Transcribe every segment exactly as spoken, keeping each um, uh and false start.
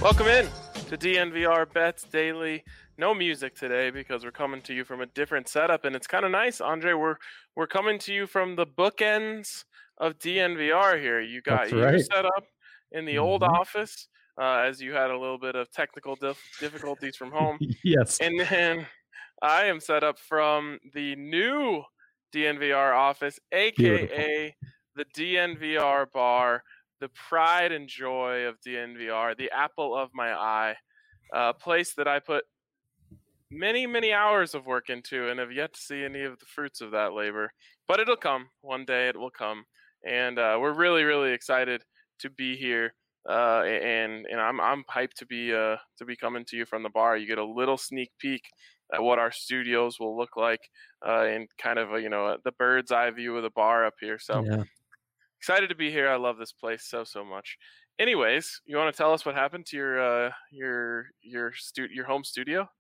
Welcome in to D N V R Bets Daily. No music today because we're coming to you from a different setup, and it's kind of nice, Andre. We're we're coming to you from the bookends of D N V R here. You got That's you right. set up in the Mhm. old office uh, as you had a little bit of technical dif- difficulties from home, Yes. and then I am set up from the new D N V R office, Beautiful. aka the D N V R bar. The pride and joy of D N V R, the apple of my eye, a place that I put many, many hours of work into and have yet to see any of the fruits of that labor. But it'll come. One day it will come. And uh, we're really, really excited to be here. Uh, and and I'm I'm hyped to be uh, to be coming to you from the bar. You get a little sneak peek at what our studios will look like uh, in kind of a, you know, the bird's eye view of the bar up here. So. Yeah. Excited to be here. I love this place so so much. Anyways, you want to tell us what happened to your uh, your your stu- your home studio?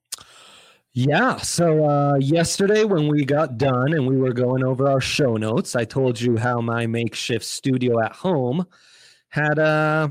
Yeah. So uh, yesterday when we got done and we were going over our show notes, I told you how my makeshift studio at home had uh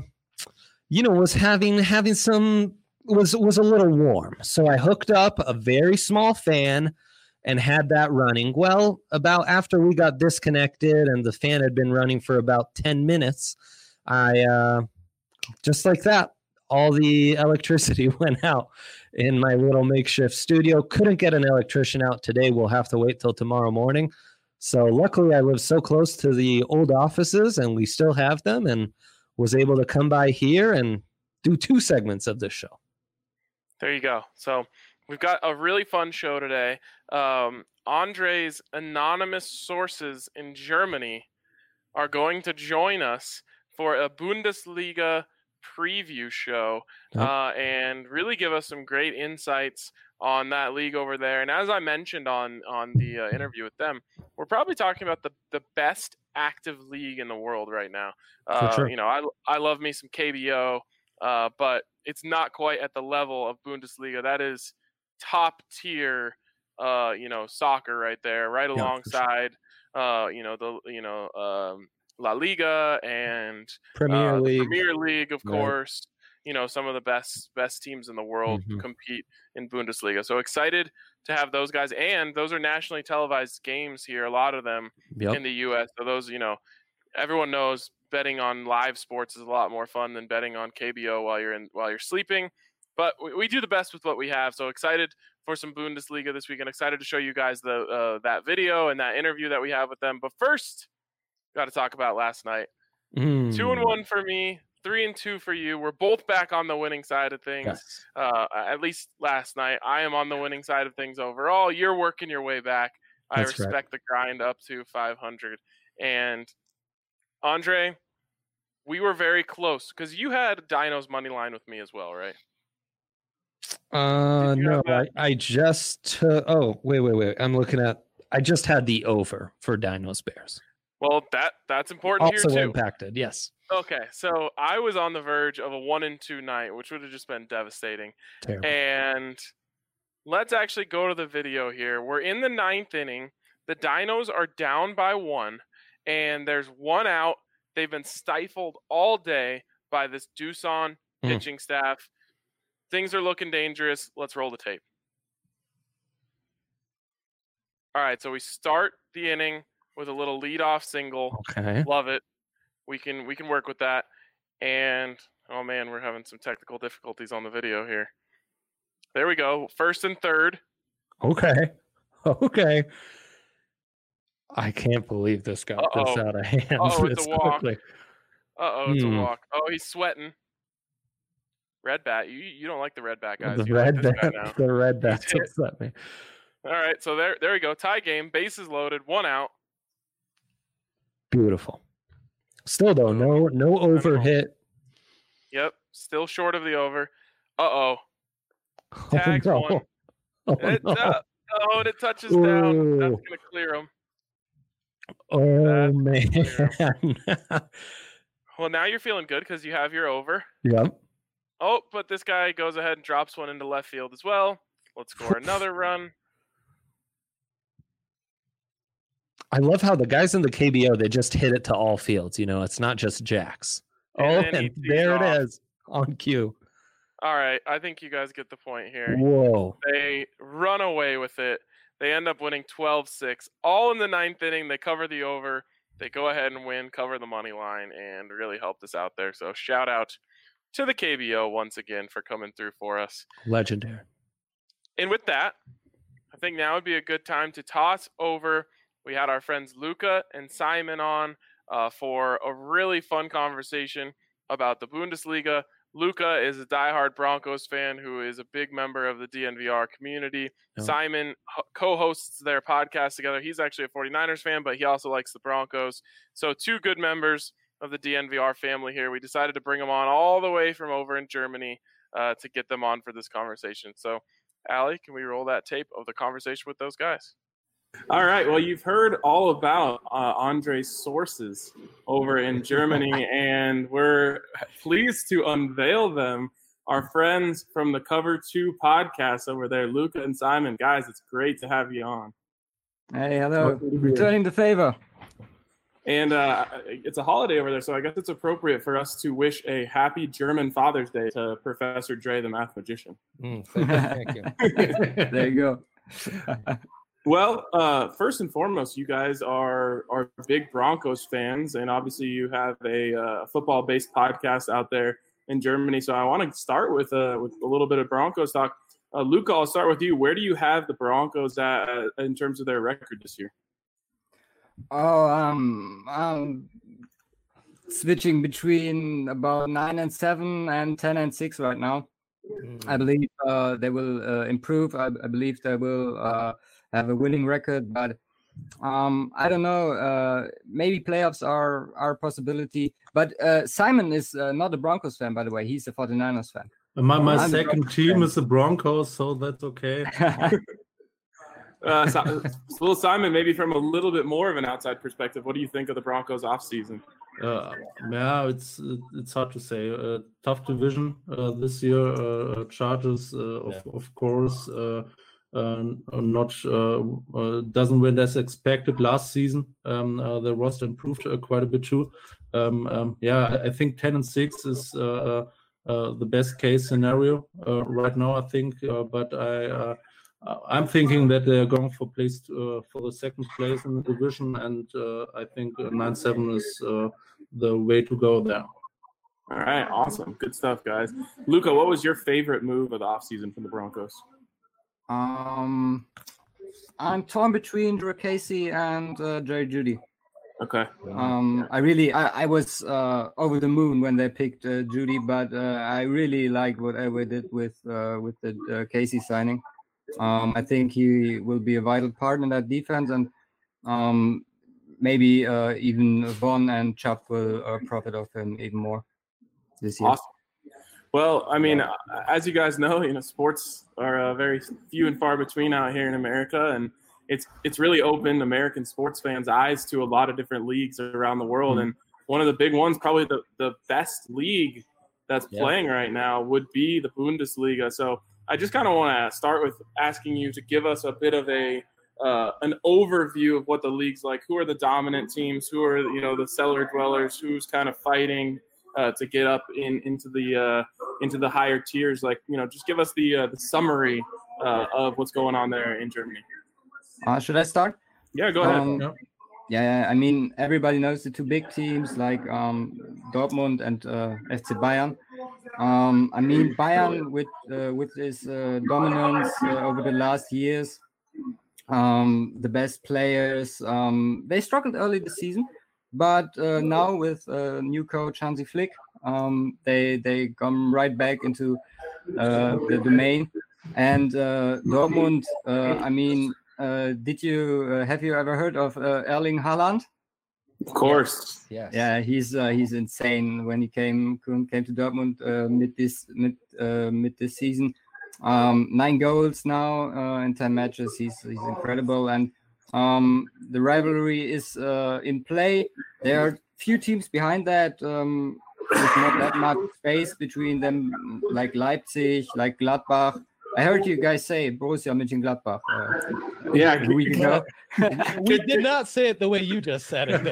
you know was having having some was was a little warm. So I hooked up a very small fan and had that running. Well, about after we got disconnected and the fan had been running for about ten minutes, I, uh, just like that, all the electricity went out in my little makeshift studio. Couldn't get an electrician out today. We'll have to wait till tomorrow morning. So luckily I live so close to the old offices and we still have them, and was able to come by here and do two segments of this show. There you go. So we've got a really fun show today. Um, Andre's anonymous sources in Germany are going to join us for a Bundesliga preview show Yep. uh, and really give us some great insights on that league over there. And as I mentioned on on the uh, interview with them, we're probably talking about the, the best active league in the world right now. Uh, For sure. You know, I, I love me some K B O, uh, but it's not quite at the level of Bundesliga. That is top tier, uh, you know, soccer right there, right Yeah, for sure. alongside, uh, you know, the, you know, um, La Liga and Premier uh, the League. Premier League, of Right. course. You know, some of the best best teams in the world Mhm. compete in Bundesliga. So excited to have those guys, and those are nationally televised games here. A lot of them Yep. in the U S. So those, you know, everyone knows betting on live sports is a lot more fun than betting on K B O while you're in while you're sleeping. But we, we do the best with what we have. So excited for some Bundesliga this weekend. Excited to show you guys the uh, that video and that interview that we have with them. But first, got to talk about last night. Mm. Two and one for me, three and two for you. We're both back on the winning side of things. Yes. Uh, at least last night, I am on the winning side of things overall. You're working your way back. I That's right. respect the grind up to five hundred. And Andre, we were very close because you had Dino's money line with me as well, right? Uh, Did you no, have that? I, I just took, oh, wait, wait, wait. I'm looking at, I just had the over for Dinos Bears. Well, that that's important Also here too. impacted, yes. Okay, so I was on the verge of a one and two night, which would have just been devastating. Terrible. And let's actually go to the video here. We're in the ninth inning. The Dinos are down by one, and there's one out. They've been stifled all day by this Doosan Mm. pitching staff. Things are looking dangerous. Let's roll the tape. All right, so we start the inning with a little leadoff single. Okay. Love it. We can we can work with that. And oh man, we're having some technical difficulties on the video here. There we go. First and third. Okay. Okay. I can't believe this got Uh-oh. this out of hand Uh-oh, it's this a walk. quickly. Uh-oh, it's Hmm. a walk. Oh, he's sweating. Red bat. You you don't like the red bat guys. The You red like this guy bat, now. the red bats hit. upset me. All right, so there there we go. Tie game. Bases loaded. One out. Beautiful. Still though, no no over hit. Yep. Still short of the over. Uh-oh. Oh, Tags no. one. Oh, It's no. up. Oh, and it touches down. That's Ooh. gonna clear him. Oh That's man. Well, now you're feeling good because you have your over. Yep. Oh, but this guy goes ahead and drops one into left field as well. Let's score another run. I love how the guys in the K B O, they just hit it to all fields. You know, it's not just jacks. And Oh, then he and tees there off. it is on cue. All right, I think you guys get the point here. Whoa. They run away with it. They end up winning twelve six. All in the ninth inning. They cover the over. They go ahead and win, cover the money line, and really helped us out there. So shout out to the K B O once again for coming through for us. Legendary. And with that, I think now would be a good time to toss over. We had our friends Luca and Simon on uh, for a really fun conversation about the Bundesliga. Luca is a diehard Broncos fan who is a big member of the D N V R community. Oh. Simon ho- co-hosts their podcast together. He's actually a 49ers fan, but he also likes the Broncos. So two good members of the D N V R family here. We decided to bring them on all the way from over in Germany uh, to get them on for this conversation. So, Allie, can we roll that tape of the conversation with those guys? All right. Well, you've heard all about uh, Andre's sources over in Germany, and we're pleased to unveil them. Our friends from the Cover two podcast over there, Luca and Simon. Guys, it's great to have you on. Hey, hello. Returning the favor. And uh, it's a holiday over there, so I guess it's appropriate for us to wish a happy German Father's Day to Professor Dre, the math magician. Mm, thank you. Thank you. There you go. Well, uh, first and foremost, you guys are are big Broncos fans, and obviously you have a uh, football-based podcast out there in Germany. So I want to start with uh, with a little bit of Broncos talk. Uh, Luca, I'll start with you. Where do you have the Broncos at uh, in terms of their record this year? Oh, um, um, switching between about nine and seven and ten and six right now. Mm. I believe uh, they will uh, improve. I, I believe they will. Uh, have a winning record, but um, I don't know. Uh, maybe playoffs are, are a possibility. But uh, Simon is uh, not a Broncos fan, by the way. He's a 49ers fan. My, my second team fan. is the Broncos, so that's okay. uh, so, little Simon, maybe from a little bit more of an outside perspective, what do you think of the Broncos offseason? Uh, yeah, it's it's hard to say. Uh, tough division uh, this year. Uh, Chargers, uh, of, yeah. of course. Uh, Uh, not uh, uh, doesn't win as expected last season. Um, uh, the roster improved uh, quite a bit too. Um, um, yeah, I think ten and six is uh, uh, the best case scenario uh, right now. I think, uh, but I uh, I'm thinking that they're going for place to, uh, for the second place in the division, and uh, I think nine seven is uh, the way to go there. All right, awesome, good stuff, guys. Luca, what was your favorite move of the offseason from the Broncos? Um, I'm torn between Drew Casey and uh, Jerry Jeudy. Okay. Um, I really, I, I was uh, over the moon when they picked uh, Jeudy, but uh, I really like whatever they did with uh, with the uh, Casey signing. Um, I think he will be a vital part in that defense, and um, maybe uh, even Vaughn and Chubb will uh, profit of him even more this year. Awesome. Well, I mean, as you guys know, you know, sports are uh, very few and far between out here in America, and it's it's really opened American sports fans' eyes to a lot of different leagues around the world. Mm-hmm. And one of the big ones, probably the, the best league that's yeah. playing right now, would be the Bundesliga. So I just kind of want to start with asking you to give us a bit of a uh, an overview of what the league's like. Who are the dominant teams? Who are, you know, the cellar dwellers? Who's kind of fighting Uh, to get up in into the uh, into the higher tiers? Like, you know, just give us the uh, the summary uh, of what's going on there in Germany. Uh, should I start? Yeah, go ahead. Um, yeah. yeah, I mean, everybody knows the two big teams like um, Dortmund and uh, F C Bayern. Um, I mean, Bayern with uh, with his uh, dominance uh, over the last years, um, the best players. Um, they struggled early this season. But uh, now with uh, new coach Hansi Flick, um, they they come right back into uh, the domain. And uh, Dortmund, uh, I mean, uh, did you uh, have you ever heard of uh, Erling Haaland? Of course, yes. Yeah, he's uh, he's insane. When he came came to Dortmund uh, mid this mid uh, mid this season, um, nine goals now uh, in ten matches. He's he's incredible. And Um, the rivalry is uh, in play. There are few teams behind that. Um, there's not that much space between them, like Leipzig, like Gladbach. I heard you guys say Borussia Mönchengladbach. Uh, yeah, a week ago. We did not say it the way you just said it.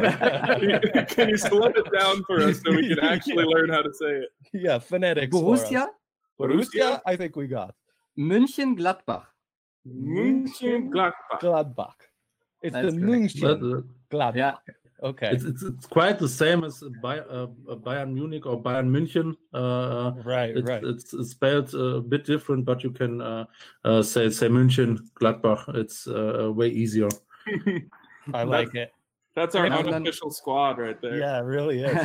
Can you slow it down for us so we can actually yeah. learn how to say it? Yeah, phonetics. Borussia? Borussia, I think we got. München Gladbach. München Gladbach. Gladbach. It's That's the correct. But, München uh, Gladbach. Yeah. Okay. it's, it's it's quite the same as Bay, uh, Bayern Munich or Bayern München. Uh, right, it's, right. it's it's spelled a bit different, but you can uh, uh, say say München Gladbach. It's uh, way easier. I like it. That's our And then- unofficial squad right there. Yeah, it really is.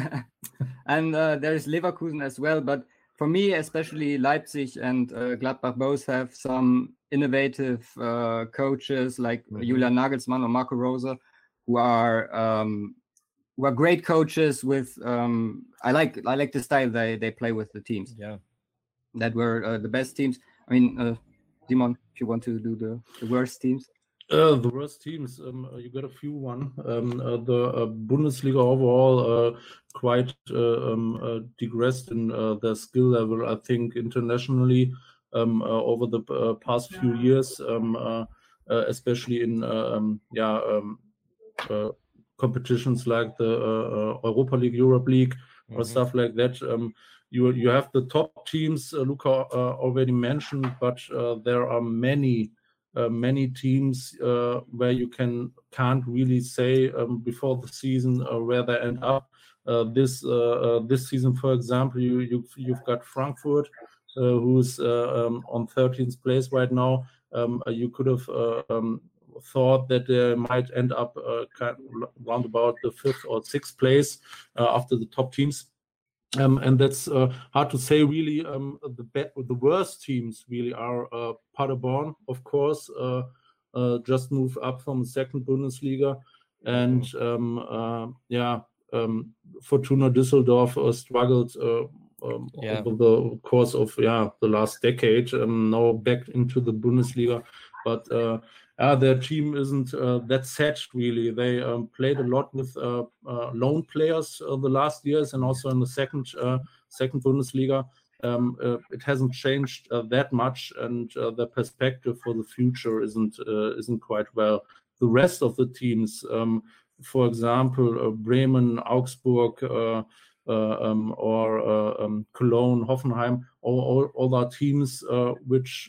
and uh, there's Leverkusen as well. But for me, especially Leipzig and uh, Gladbach both have some innovative uh, coaches like Mhm. Julian Nagelsmann or Marco Rose, who are um, who are great coaches. With um, I like I like the style they they play with the teams. Yeah. That were uh, the best teams. I mean, uh, Simon, if you want to do the, the worst teams. Uh, the worst teams, um, uh, you got a few one. Um, uh, the uh, Bundesliga overall uh, quite uh, um, uh, digressed in uh, their skill level, I think, internationally um, uh, over the uh, past few years, um, uh, uh, especially in uh, um, yeah um, uh, competitions like the uh, uh, Europa League, Europe League, or Mhm. stuff like that. Um, you you have the top teams, uh, Luca uh, already mentioned, but uh, there are many. Uh, many teams uh, where you can can't really say um, before the season uh, where they end up. Uh, this uh, uh, this season, for example, you you've, you've got Frankfurt, uh, who's uh, um, on thirteenth place right now. Um, uh, you could have uh, um, thought that they might end up uh, kind of round about the fifth or sixth place uh, after the top teams. Um, and that's uh, hard to say, really. Um, the be- the worst teams really are uh, Paderborn, of course, uh, uh, just moved up from the second Bundesliga, and um, uh, yeah, um, Fortuna Düsseldorf uh, struggled uh, um, Yeah. over the course of yeah the last decade. Um, now back into the Bundesliga, but uh, uh, their team isn't uh, that set, really. They um, played a lot with uh, uh, loan players uh, the last years, and also in the second uh, second Bundesliga. Um, uh, it hasn't changed uh, that much, and uh, the perspective for the future isn't uh, isn't quite well. The rest of the teams, um, for example, uh, Bremen, Augsburg, uh, uh, um, or uh, um, Cologne, Hoffenheim, all, all, all are teams uh, which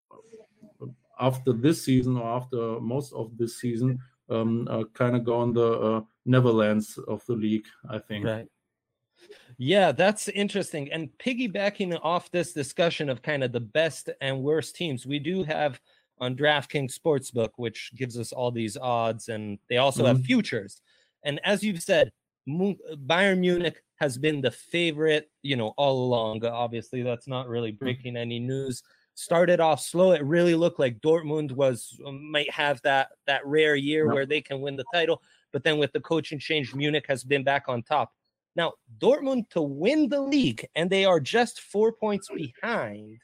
after this season or after most of this season um, uh, kind of go on the uh, Netherlands of the league, I think. Right. Yeah, that's interesting. And piggybacking off this discussion of kind of the best and worst teams, we do have on DraftKings Sportsbook, which gives us all these odds, and they also have Mhm. futures. And as you've said, Mu- Bayern Munich has been the favorite, you know, all along. Obviously, that's not really breaking any news. Started off slow. It really looked like Dortmund was might have that that rare year Yep. where they can win the title. But then with the coaching change, Munich has been back on top. Now, Dortmund to win the league, and they are just four points behind,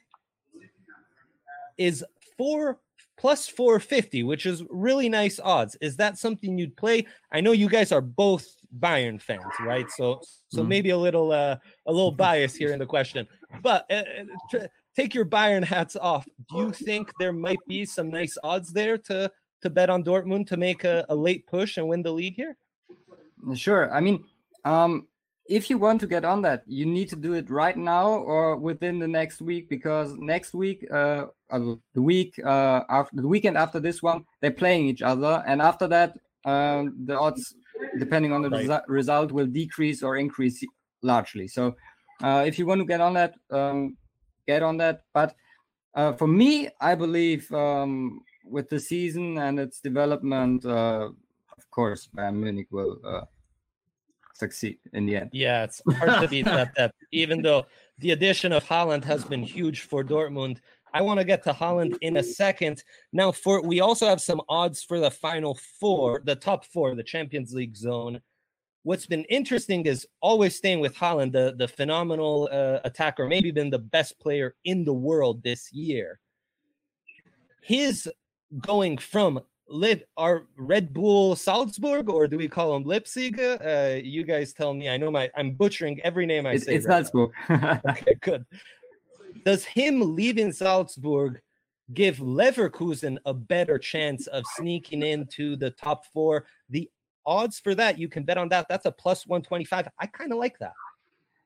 is four plus four fifty, which is really nice odds. Is that something you'd play? I know you guys are both Bayern fans, right? So, so Mhm. maybe a little, uh, a little bias here in the question. But uh, tr- take your Bayern hats off. Do you think there might be some nice odds there to to bet on Dortmund to make a, a late push and win the league here? Sure. I mean, um, if you want to get on that, you need to do it right now or within the next week, because next week, uh, uh, the week uh, after the weekend after this one, they're playing each other, and after that, um, the odds, depending on the Right. resu- result, will decrease or increase largely. So, uh, if you want to get on that, um, get on that. But uh, for me, I believe um, with the season and its development, uh, of course, Bayern Munich will uh, succeed in the end. Yeah, it's hard to beat that depth, even though the addition of Haaland has been huge for Dortmund. I want to get to Haaland in a second. Now, for we also have some odds for the final four, the top four, the Champions League zone. What's been interesting is always staying with Haaland, the, the phenomenal uh, attacker, maybe been the best player in the world this year. His going from Lit our Red Bull Salzburg, or do we call him Leipzig? Uh, you guys tell me. I know my I'm butchering every name I It's, say. it's right Salzburg. now. Okay, good. Does him leaving Salzburg give Leverkusen a better chance of sneaking into the top four? The odds for that, you can bet on that. That's a plus one twenty-five. I kind of like that.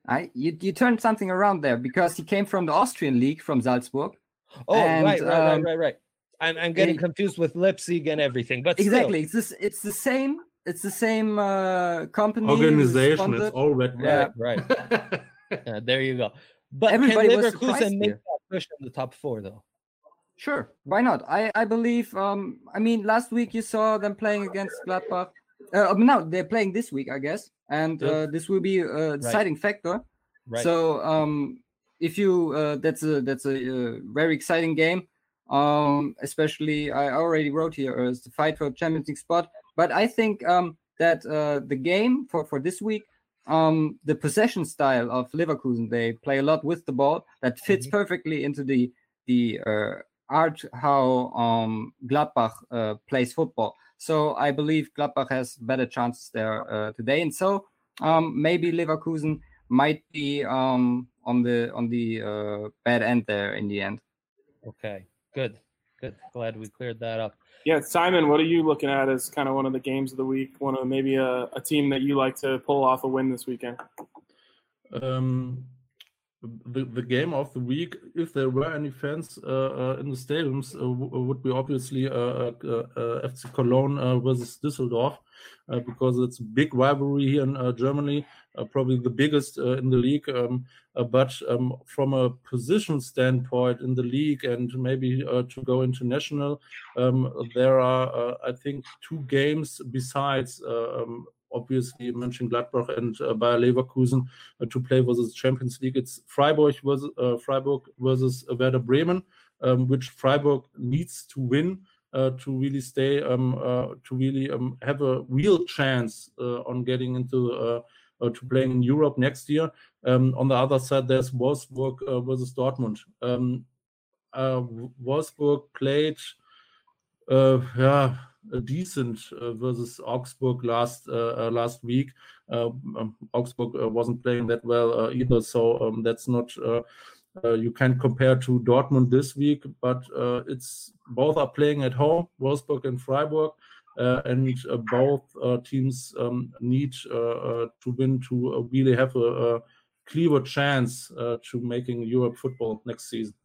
I you, you turned something around there because he came from the Austrian league from Salzburg. Oh, And, right, right, um, right, right, right. I'm, I'm getting it- confused with Leipzig and everything, but Exactly. It's this. It's the same. It's the same uh, company. who's Organization, it's sponsored. all red. Yeah. Right, right. Yeah, there you go. But Everybody can was surprised Leverkusen make here. that push in the top four, though? Sure, why not? I I believe. Um, I mean, last week you saw them playing against Gladbach. Uh, no, they're playing this week, I guess, and Yep. uh, this will be a deciding factor. Right. So, um, if you uh, that's a that's a uh, very exciting game. Um, especially I already wrote here uh, it's the fight for Champions League spot. But I think um that uh, the game for for this week. Um, the possession style of Leverkusen, they play a lot with the ball. That fits Mhm. perfectly into the the uh, art how um, Gladbach uh, plays football. So I believe Gladbach has better chances there uh, today, and so um, maybe Leverkusen might be um, on the on the uh, bad end there in the end. Okay, good, good. Glad we cleared that up. Yeah, Simon, what are you looking at as kind of one of the games of the week? One of maybe a, a team that you like to pull off a win this weekend? Um, the the game of the week, if there were any fans uh, uh, in the stadiums, uh, w- would be obviously uh, uh, uh, F C Cologne uh, versus Düsseldorf, uh, because it's a big rivalry here in uh, Germany, uh, probably the biggest uh, in the league. Um, uh, but um, from a position standpoint in the league and maybe uh, to go international, um, there are uh, I think two games besides. Uh, um, Obviously, Mönchengladbach and uh, Bayer Leverkusen uh, to play versus Champions League. It's Freiburg versus uh, Freiburg versus Werder Bremen, um, which Freiburg needs to win uh, to really stay, um, uh, to really um, have a real chance uh, on getting into uh, uh, to playing in Europe next year. Um, on the other side, there's Wolfsburg uh, versus Dortmund. Um, uh, Wolfsburg played, uh, yeah. A decent uh, versus Augsburg last uh, uh, last week. Uh, um, Augsburg uh, wasn't playing that well uh, either, so um, that's not uh, uh, you can compare to Dortmund this week. But uh, it's both are playing at home, Wolfsburg and Freiburg, uh, and uh, both uh, teams um, need uh, uh, to win to uh, really have a, a clearer chance uh, to making Europe football next season.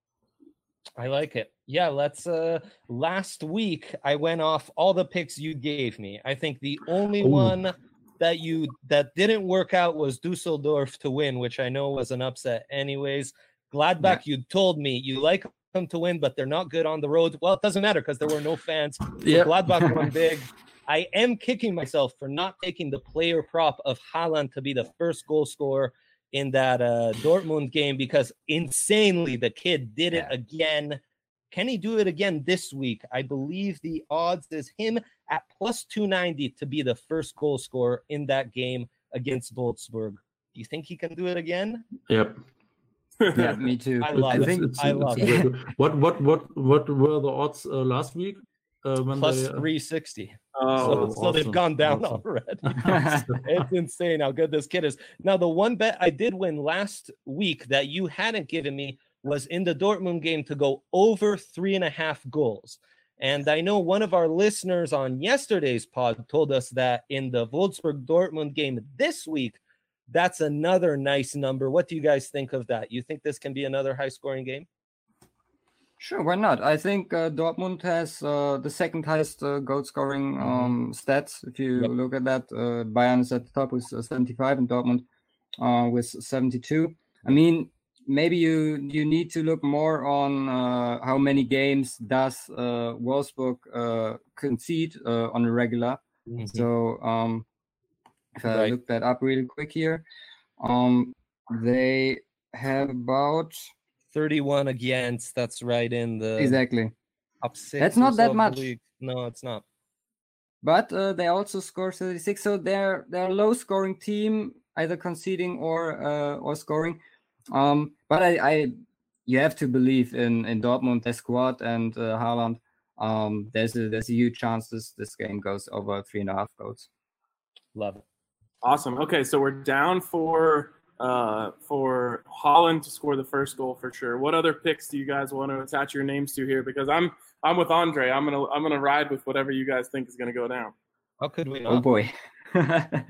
I like it. Yeah, let's uh last week I went off all the picks you gave me. I think the only Ooh. one that you that didn't work out was Dusseldorf to win, which I know was an upset anyways. Gladbach, you told me you like them to win, but they're not good on the road. Well, it doesn't matter because there were no fans. So Yeah. Gladbach won big. I am kicking myself for not taking the player prop of Haaland to be the first goal scorer in that uh, Dortmund game, because insanely the kid did it Yeah. again. Can he do it again this week? I believe the odds is him at plus two ninety to be the first goal scorer in that game against Wolfsburg. Do you think he can do it again? Yep. Yeah, me too. I love I it. think I love very good. What what what what were the odds uh, last week? Uh, when Plus they, uh, three sixty. Oh, so so they've awesome. gone down Awesome. already. It's insane how good this kid is. Now, the one bet I did win last week that you hadn't given me was in the Dortmund game to go over three and a half goals. And I know one of our listeners on yesterday's pod told us that in the Wolfsburg Dortmund game this week, that's another nice number. What do you guys think of that? You think this can be another high scoring game? Sure, why not? I think uh, Dortmund has uh, the second highest uh, goal scoring um, stats. If you Yep. look at that, uh, Bayern is at the top with uh, seventy-five and Dortmund uh, with seventy-two. I mean, maybe you you need to look more on uh, how many games does uh, Wolfsburg uh, concede uh, on a regular. So um, if I Right. look that up really quick here, um, they have about thirty-one against. That's right in the exactly. top six. That's or not so that of the much. league. No, it's not. But uh, they also score thirty-six, so they're they're a low scoring team, either conceding or uh, or scoring. Um, but I, I you have to believe in in Dortmund, their squad, and uh, Haaland. Um, there's a there's a huge chance this this game goes over three and a half goals. Love it. Awesome. Okay, so we're down for uh, for Holland to score the first goal for sure. What other picks do you guys want to attach your names to here? Because I'm I'm with Andre. I'm gonna I'm gonna ride with whatever you guys think is gonna go down. How could we Oh not? boy.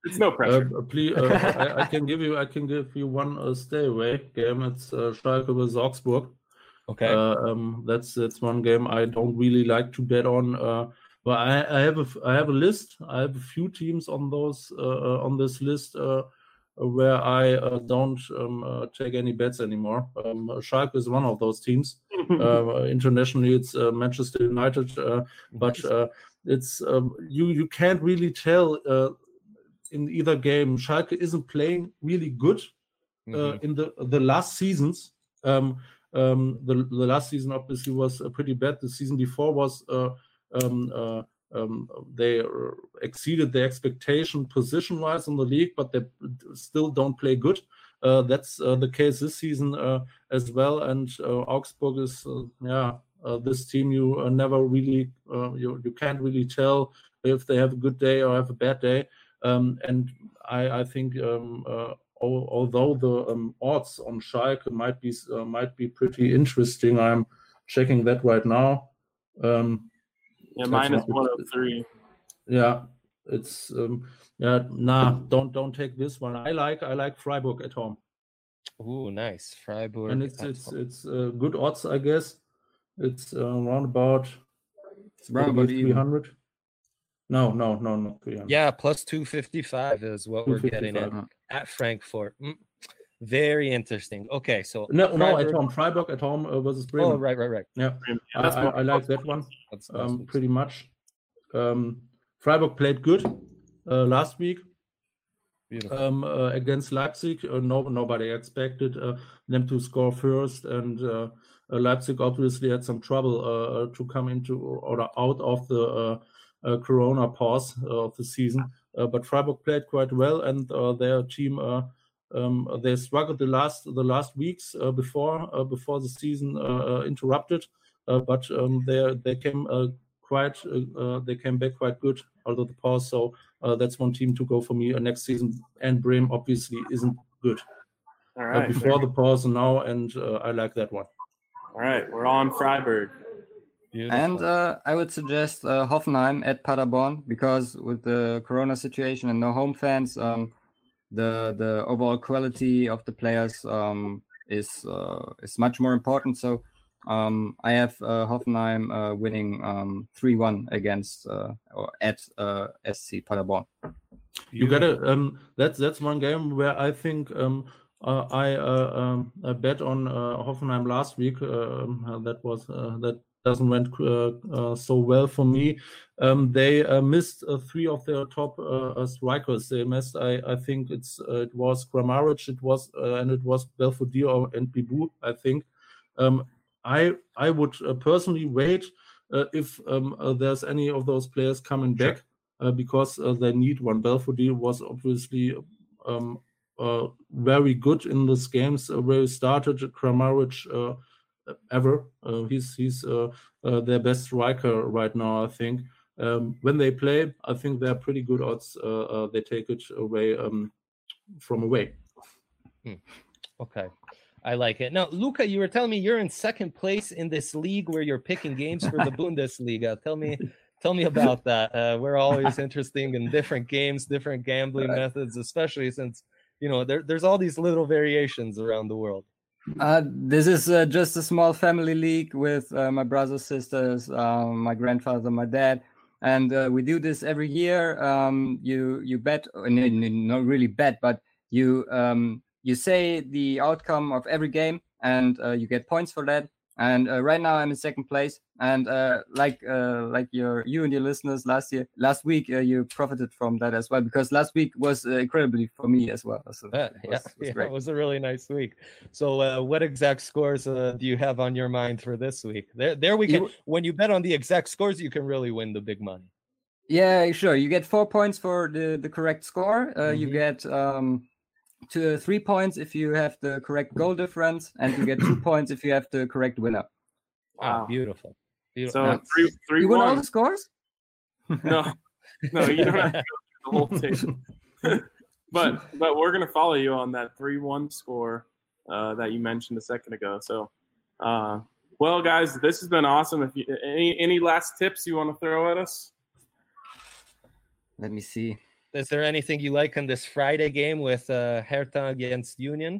It's no pressure. Uh, please, uh, I, I can give you, I can give you one uh, stay away game. It's uh, Schalke with Augsburg. Okay. Uh, um, that's that's one game I don't really like to bet on. Uh, but I, I have a I have a list. I have a few teams on those uh, on this list uh, where I uh, don't um, uh, take any bets anymore. Um, Schalke is one of those teams. uh, internationally, it's uh, Manchester United, uh, but uh, it's um, you you can't really tell uh, in either game. Schalke isn't playing really good uh, Mm-hmm. in the the last seasons. Um, Um, the, the last season obviously was uh, pretty bad. The season before was uh, um, uh, um, they uh, exceeded their expectation position-wise in the league, but they still don't play good. Uh, that's uh, the case this season uh, as well. And uh, Augsburg is, uh, yeah, uh, this team you uh, never really, uh, you you can't really tell if they have a good day or have a bad day. Um, and I, I think. Um, uh, Although the um, odds on Schalke might be uh, might be pretty interesting, I'm checking that right now. Um, yeah, minus one oh three. Yeah, it's um, yeah. Nah, don't don't take this one. I like I like Freiburg at home. Ooh, nice, Freiburg. And it's it's home. it's uh, good odds, I guess. It's uh, around about it's around about three hundred. No, no, no, no. three hundred. Yeah, plus two fifty-five is what we're getting at. At Frankfurt. Mm. Very interesting. Okay, so no, Freiburg. no, at home, Freiburg at home uh, versus Bremen. Oh, right, right, right. Yeah, yeah I, I, I like that one that's, that's um, pretty much. Um, Freiburg played good uh, last week um, uh, against Leipzig. Uh, no, nobody expected uh, them to score first, and uh, uh, Leipzig obviously had some trouble uh, to come into or out of the uh, uh, Corona pause uh, of the season. Uh, but Freiburg played quite well, and uh, their team uh, um, they struggled the last the last weeks uh, before uh, before the season uh, interrupted. Uh, but um, they they came uh, quite uh, they came back quite good out of the pause. So uh, that's one team to go for me uh, next season. And Bremen obviously isn't good. All right, uh, before the pause and now, and uh, I like that one. All right, we're on Freiburg. Beautiful. And uh, I would suggest uh, Hoffenheim at Paderborn, because with the Corona situation and no home fans, um, the the overall quality of the players um, is uh, is much more important. So um, I have uh, Hoffenheim uh, winning um, three one against uh, or at uh, S C Paderborn. You got to um, that's that's one game where I think um, uh, I uh, um, I bet on uh, Hoffenheim last week. Uh, that was uh, that. doesn't went uh, uh, so well for me. Um, they uh, missed uh, three of their top uh, strikers. They missed, I, I think it's uh, it was Kramaric, it was uh, and it was Belfodil and Bibu. I think. Um, I I would uh, personally wait uh, if um, uh, there's any of those players coming back uh, because uh, they need one. Belfodil was obviously um, uh, very good in these games uh, where he started. Kramaric. Uh, ever uh, he's he's uh, uh, their best striker right now, I think. Um, when they play, I think they're pretty good odds. Uh, uh, they take it away um, from away. Hmm. Okay, I like it. Now, Luca, you were telling me you're in second place in this league where you're picking games for the Bundesliga. Tell me, tell me about that. Uh, we're always interested in different games, different gambling methods, especially since you know there, there's all these little variations around the world. Uh, this is uh, just a small family league with uh, my brothers, sisters, um, my grandfather, my dad, and uh, we do this every year. Um, you you bet, not really bet, but you um, you say the outcome of every game, and uh, you get points for that. And uh, right now I'm in second place, and uh, like uh, like your you and your listeners last year, last week uh, you profited from that as well, because last week was uh, incredibly for me as well. So uh, it was, yeah, was yeah, great. It was a really nice week. So uh, what exact scores uh, do you have on your mind for this week? There, there we can. You, when you bet on the exact scores, you can really win the big money. Yeah, sure. You get four points for the the correct score. Uh, mm-hmm. You get. Um, to three points if you have the correct goal difference, and you get two points if you have the correct winner. Wow, oh, beautiful. beautiful. So three, three, you one. won all the scores? No, no, you don't have to go through the whole thing. but but we're gonna follow you on that three one score uh, that you mentioned a second ago. So, uh, well, guys, this has been awesome. If you any any last tips you want to throw at us? Let me see. Is there anything you like in this Friday game with uh, Hertha against Union?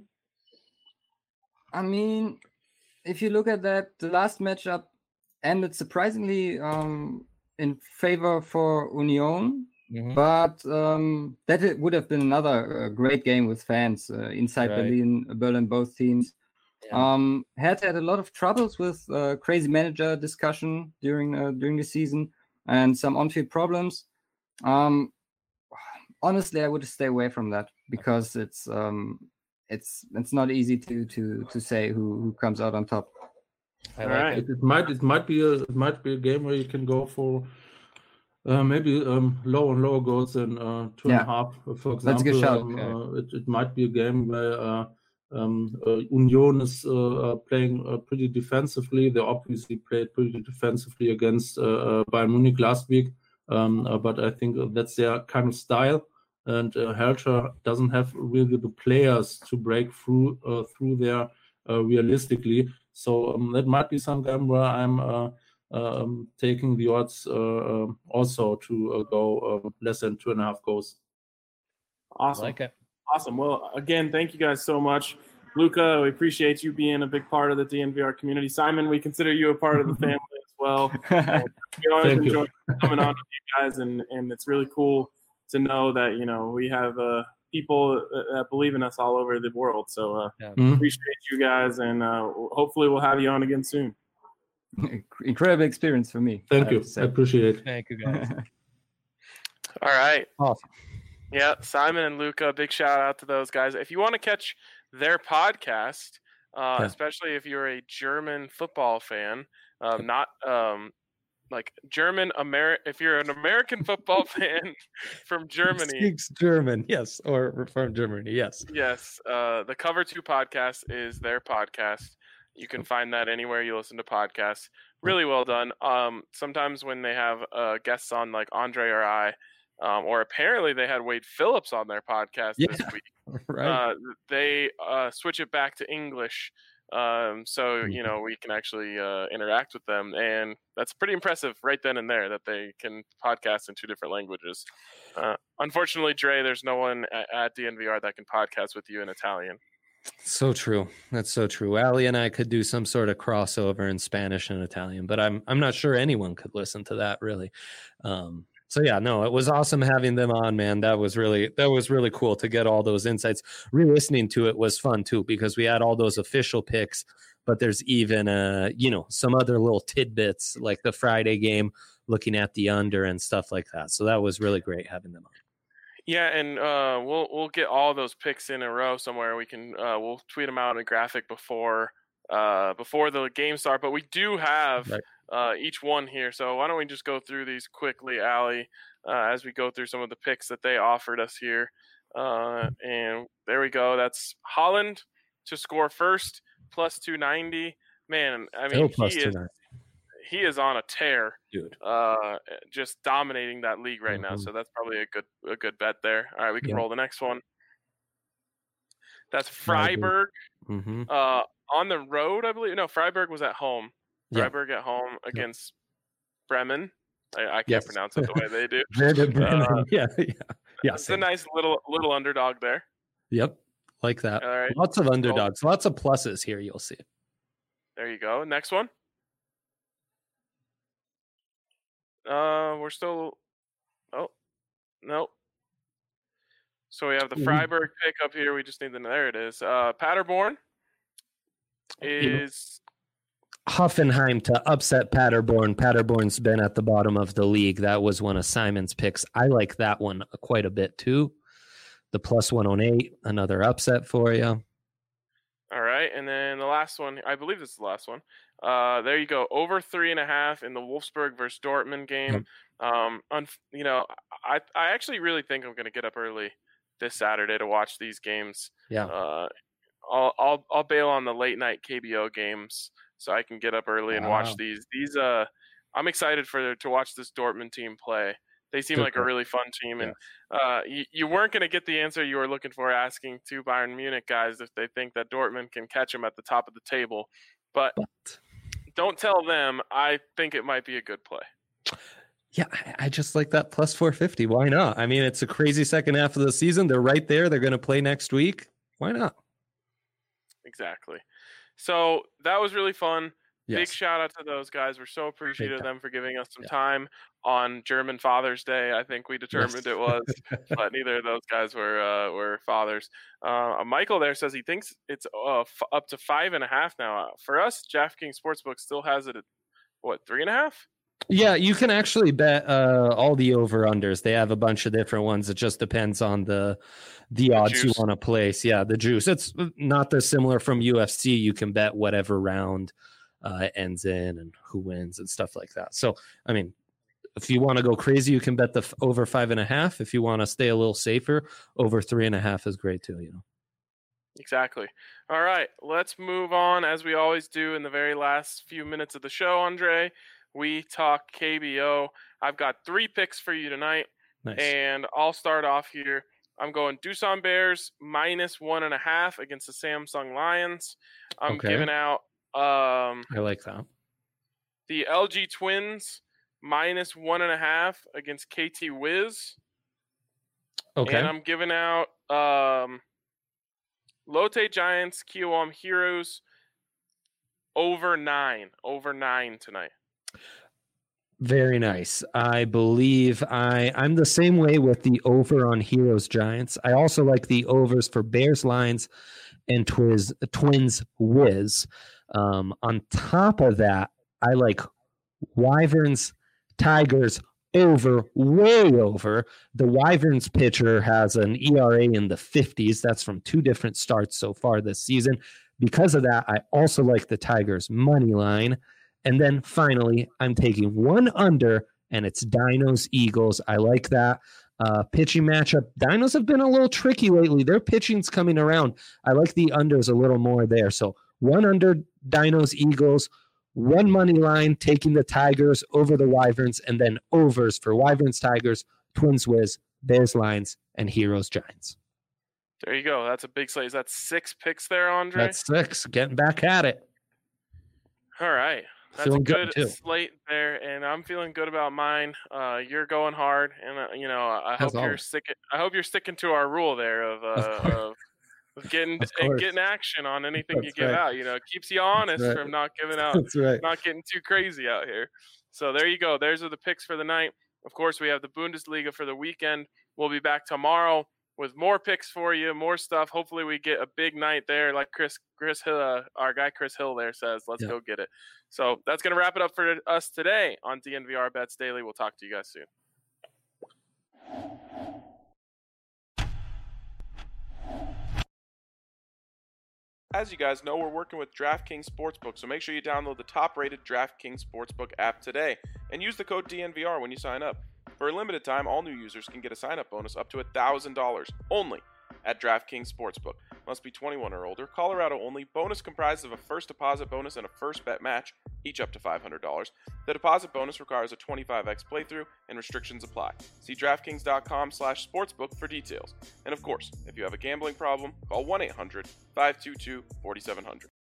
I mean, if you look at that, the last matchup ended surprisingly um, in favor for Union, mm-hmm. but um, that it would have been another uh, great game with fans uh, inside right. Berlin, Berlin, both teams. Yeah. Um, Hertha had a lot of troubles with uh, crazy manager discussion during uh, during the season and some on-field problems. Um, honestly, I would stay away from that because it's um, it's it's not easy to to to say who, who comes out on top. I like right. it. It might it might be a it might be a game where you can go for uh, maybe um, low and lower goals than uh, two yeah. and a half, for example. That's a good shot. Um, okay. uh, it, it might be a game where uh, um, uh, Union is uh, playing uh, pretty defensively. They obviously played pretty defensively against uh, uh, Bayern Munich last week, um, uh, but I think that's their kind of style. And uh, Hertha doesn't have really the players to break through uh, through there uh, realistically. So um, that might be some game where I'm uh, um, taking the odds uh, also to uh, go uh, less than two and a half goals. Awesome. I like it. Awesome. Well, again, thank you guys so much. Luca, we appreciate you being a big part of the D N V R community. Simon, we consider you a part of the family as well. We always thank enjoy you. coming on with you guys, and, and it's really cool to know that, you know, we have uh, people that believe in us all over the world. So uh, yeah. mm-hmm. appreciate you guys, and uh, hopefully we'll have you on again soon. Incredible experience for me. Thank you. I appreciate it. Thank you, guys. All right. Awesome. Yeah, Simon and Luca, big shout out to those guys. If you want to catch their podcast, uh, yeah. especially if you're a German football fan, um, not um, like German Ameri- if you're an American football fan from Germany, speaks German, yes, or from Germany, yes, yes. Uh, the Cover Two podcast is their podcast. You can find that anywhere you listen to podcasts. Really well done. Um, sometimes when they have uh, guests on, like Andre or I, um, or apparently they had Wade Phillips on their podcast yeah, this week. Right. Uh, they uh, switch it back to English. Um, so, you know, we can actually uh, interact with them, and that's pretty impressive right then and there that they can podcast in two different languages. Uh, unfortunately, Dre, there's no one at, at D N V R that can podcast with you in Italian. So true. That's so true. Ali and I could do some sort of crossover in Spanish and Italian, but I'm I'm not sure anyone could listen to that really. Um, So yeah, no, it was awesome having them on, man. That was really that was really cool to get all those insights. Re-listening to it was fun too, because we had all those official picks, but there's even uh, you know, some other little tidbits like the Friday game, looking at the under and stuff like that. So that was really great having them on. Yeah, and uh, we'll we'll get all those picks in a row somewhere. We can uh, we'll tweet them out in a graphic before uh, before the game start. But we do have. Right. Uh, each one here. So why don't we just go through these quickly, Ali, uh, as we go through some of the picks that they offered us here. Uh, and there we go. That's Holland to score first, plus two ninety. Man, I mean, he is, he is on a tear, dude. Uh, just dominating that league right mm-hmm. now. So that's probably a good a good bet there. All right, we can yeah. roll the next one. That's Freiburg mm-hmm. uh, on the road, I believe. No, Freiburg was at home. Freiburg yeah. at home against yeah. Bremen. I, I can't yes. pronounce it the way they do. uh, yeah, yeah, yeah. It's a nice little little underdog there. Yep, like that. All right. Lots of underdogs, oh. lots of pluses here. You'll see. There you go. Next one. Uh, we're still. Oh, no. So we have the Freiburg pick up here. We just need the. There it is. Uh, Paderborn is. Hoffenheim to upset Paderborn. Paderborn's been at the bottom of the league. That was one of Simon's picks. I like that one quite a bit too. The plus one oh eight, another upset for you. All right, and then the last one, I believe this is the last one. Uh, there you go, over three and a half in the Wolfsburg versus Dortmund game. Yep. Um, un- you know, I I actually really think I'm going to get up early this Saturday to watch these games. Yeah. Uh, I'll I'll I'll bail on the late night K B O games, so I can get up early and wow. watch these. These uh, I'm excited for to watch this Dortmund team play. They seem Good like point. a really fun team, and yeah. uh, you, you weren't going to get the answer you were looking for asking two Bayern Munich guys if they think that Dortmund can catch them at the top of the table. But, but don't tell them. I think it might be a good play. Yeah, I, I just like that plus four fifty. Why not? I mean, it's a crazy second half of the season. They're right there. They're going to play next week. Why not? Exactly. So that was really fun. Yes. Big shout out to those guys. We're so appreciative of time. them for giving us some Yeah. time on German Father's Day. I think we determined Yes. it was, but neither of those guys were uh, were fathers. Uh, Michael there says he thinks it's uh, f- up to five and a half now. For us, DraftKings Sportsbook still has it at what, three and a half? Yeah, you can actually bet uh, all the over unders. They have a bunch of different ones. It just depends on the the, The odds you juice. want to place. Yeah, the juice. It's not dissimilar from U F C. You can bet whatever round uh, it ends in and who wins and stuff like that. So, I mean, if you want to go crazy, you can bet the f- over five and a half. If you want to stay a little safer, over three and a half is great too. You know. Exactly. All right, let's move on as we always do in the very last few minutes of the show, Andre. We talk K B O. I've got three picks for you tonight, Nice. and I'll start off here. I'm going Doosan Bears minus one and a half against the Samsung Lions. I'm Okay. giving out um, I like that. the L G Twins minus one and a half against K T Wiz. Okay. And I'm giving out um, Lotte Giants, Kiwam Heroes over nine. Over nine tonight. Very nice. I believe I I'm the same way with the over on Heroes Giants. I also like the overs for Bears Lions and Twiz, Twins Wiz. Um, on top of that, I like Wyverns Tigers over, way over. The Wyverns pitcher has an E R A in the fifties. That's from two different starts so far this season. Because of that, I also like the Tigers money line. And then finally, I'm taking one under, and it's Dinos Eagles. I like that uh, pitching matchup. Dinos have been a little tricky lately. Their pitching's coming around. I like the unders a little more there. So one under, Dinos Eagles, one money line, taking the Tigers over the Wyverns, and then overs for Wyverns Tigers, Twins Wiz, Bears Lions, and Heroes Giants. There you go. That's a big slate. Is that six picks there, Andre? That's six. Getting back at it. All right. That's Feeling a good, good, too. slate there, and I'm feeling good about mine. Uh, you're going hard, and uh, you know I As hope you're always. sticking. I hope you're sticking to our rule there of uh, course. of, of getting Of and course. getting action on anything you That's give right. out. You know, it keeps you honest right. from not giving out, That's right. not getting too crazy out here. So there you go. There's are the picks for the night. Of course, we have the Bundesliga for the weekend. We'll be back tomorrow with more picks for you, more stuff. Hopefully, we get a big night there, like Chris, Chris Hill, uh, our guy Chris Hill there says. Let's Yeah. go get it. So that's gonna wrap it up for us today on D N V R Bets Daily. We'll talk to you guys soon. As you guys know, we're working with DraftKings Sportsbook, so make sure you download the top-rated DraftKings Sportsbook app today and use the code D N V R when you sign up. For a limited time, all new users can get a sign-up bonus up to one thousand dollars only at DraftKings Sportsbook. Must be twenty-one or older. Colorado only. Bonus comprised of a first deposit bonus and a first bet match, each up to five hundred dollars. The deposit bonus requires a twenty-five x playthrough and restrictions apply. See DraftKings.com slash sportsbook for details. And of course, if you have a gambling problem, call one eight hundred five two two four seven zero zero.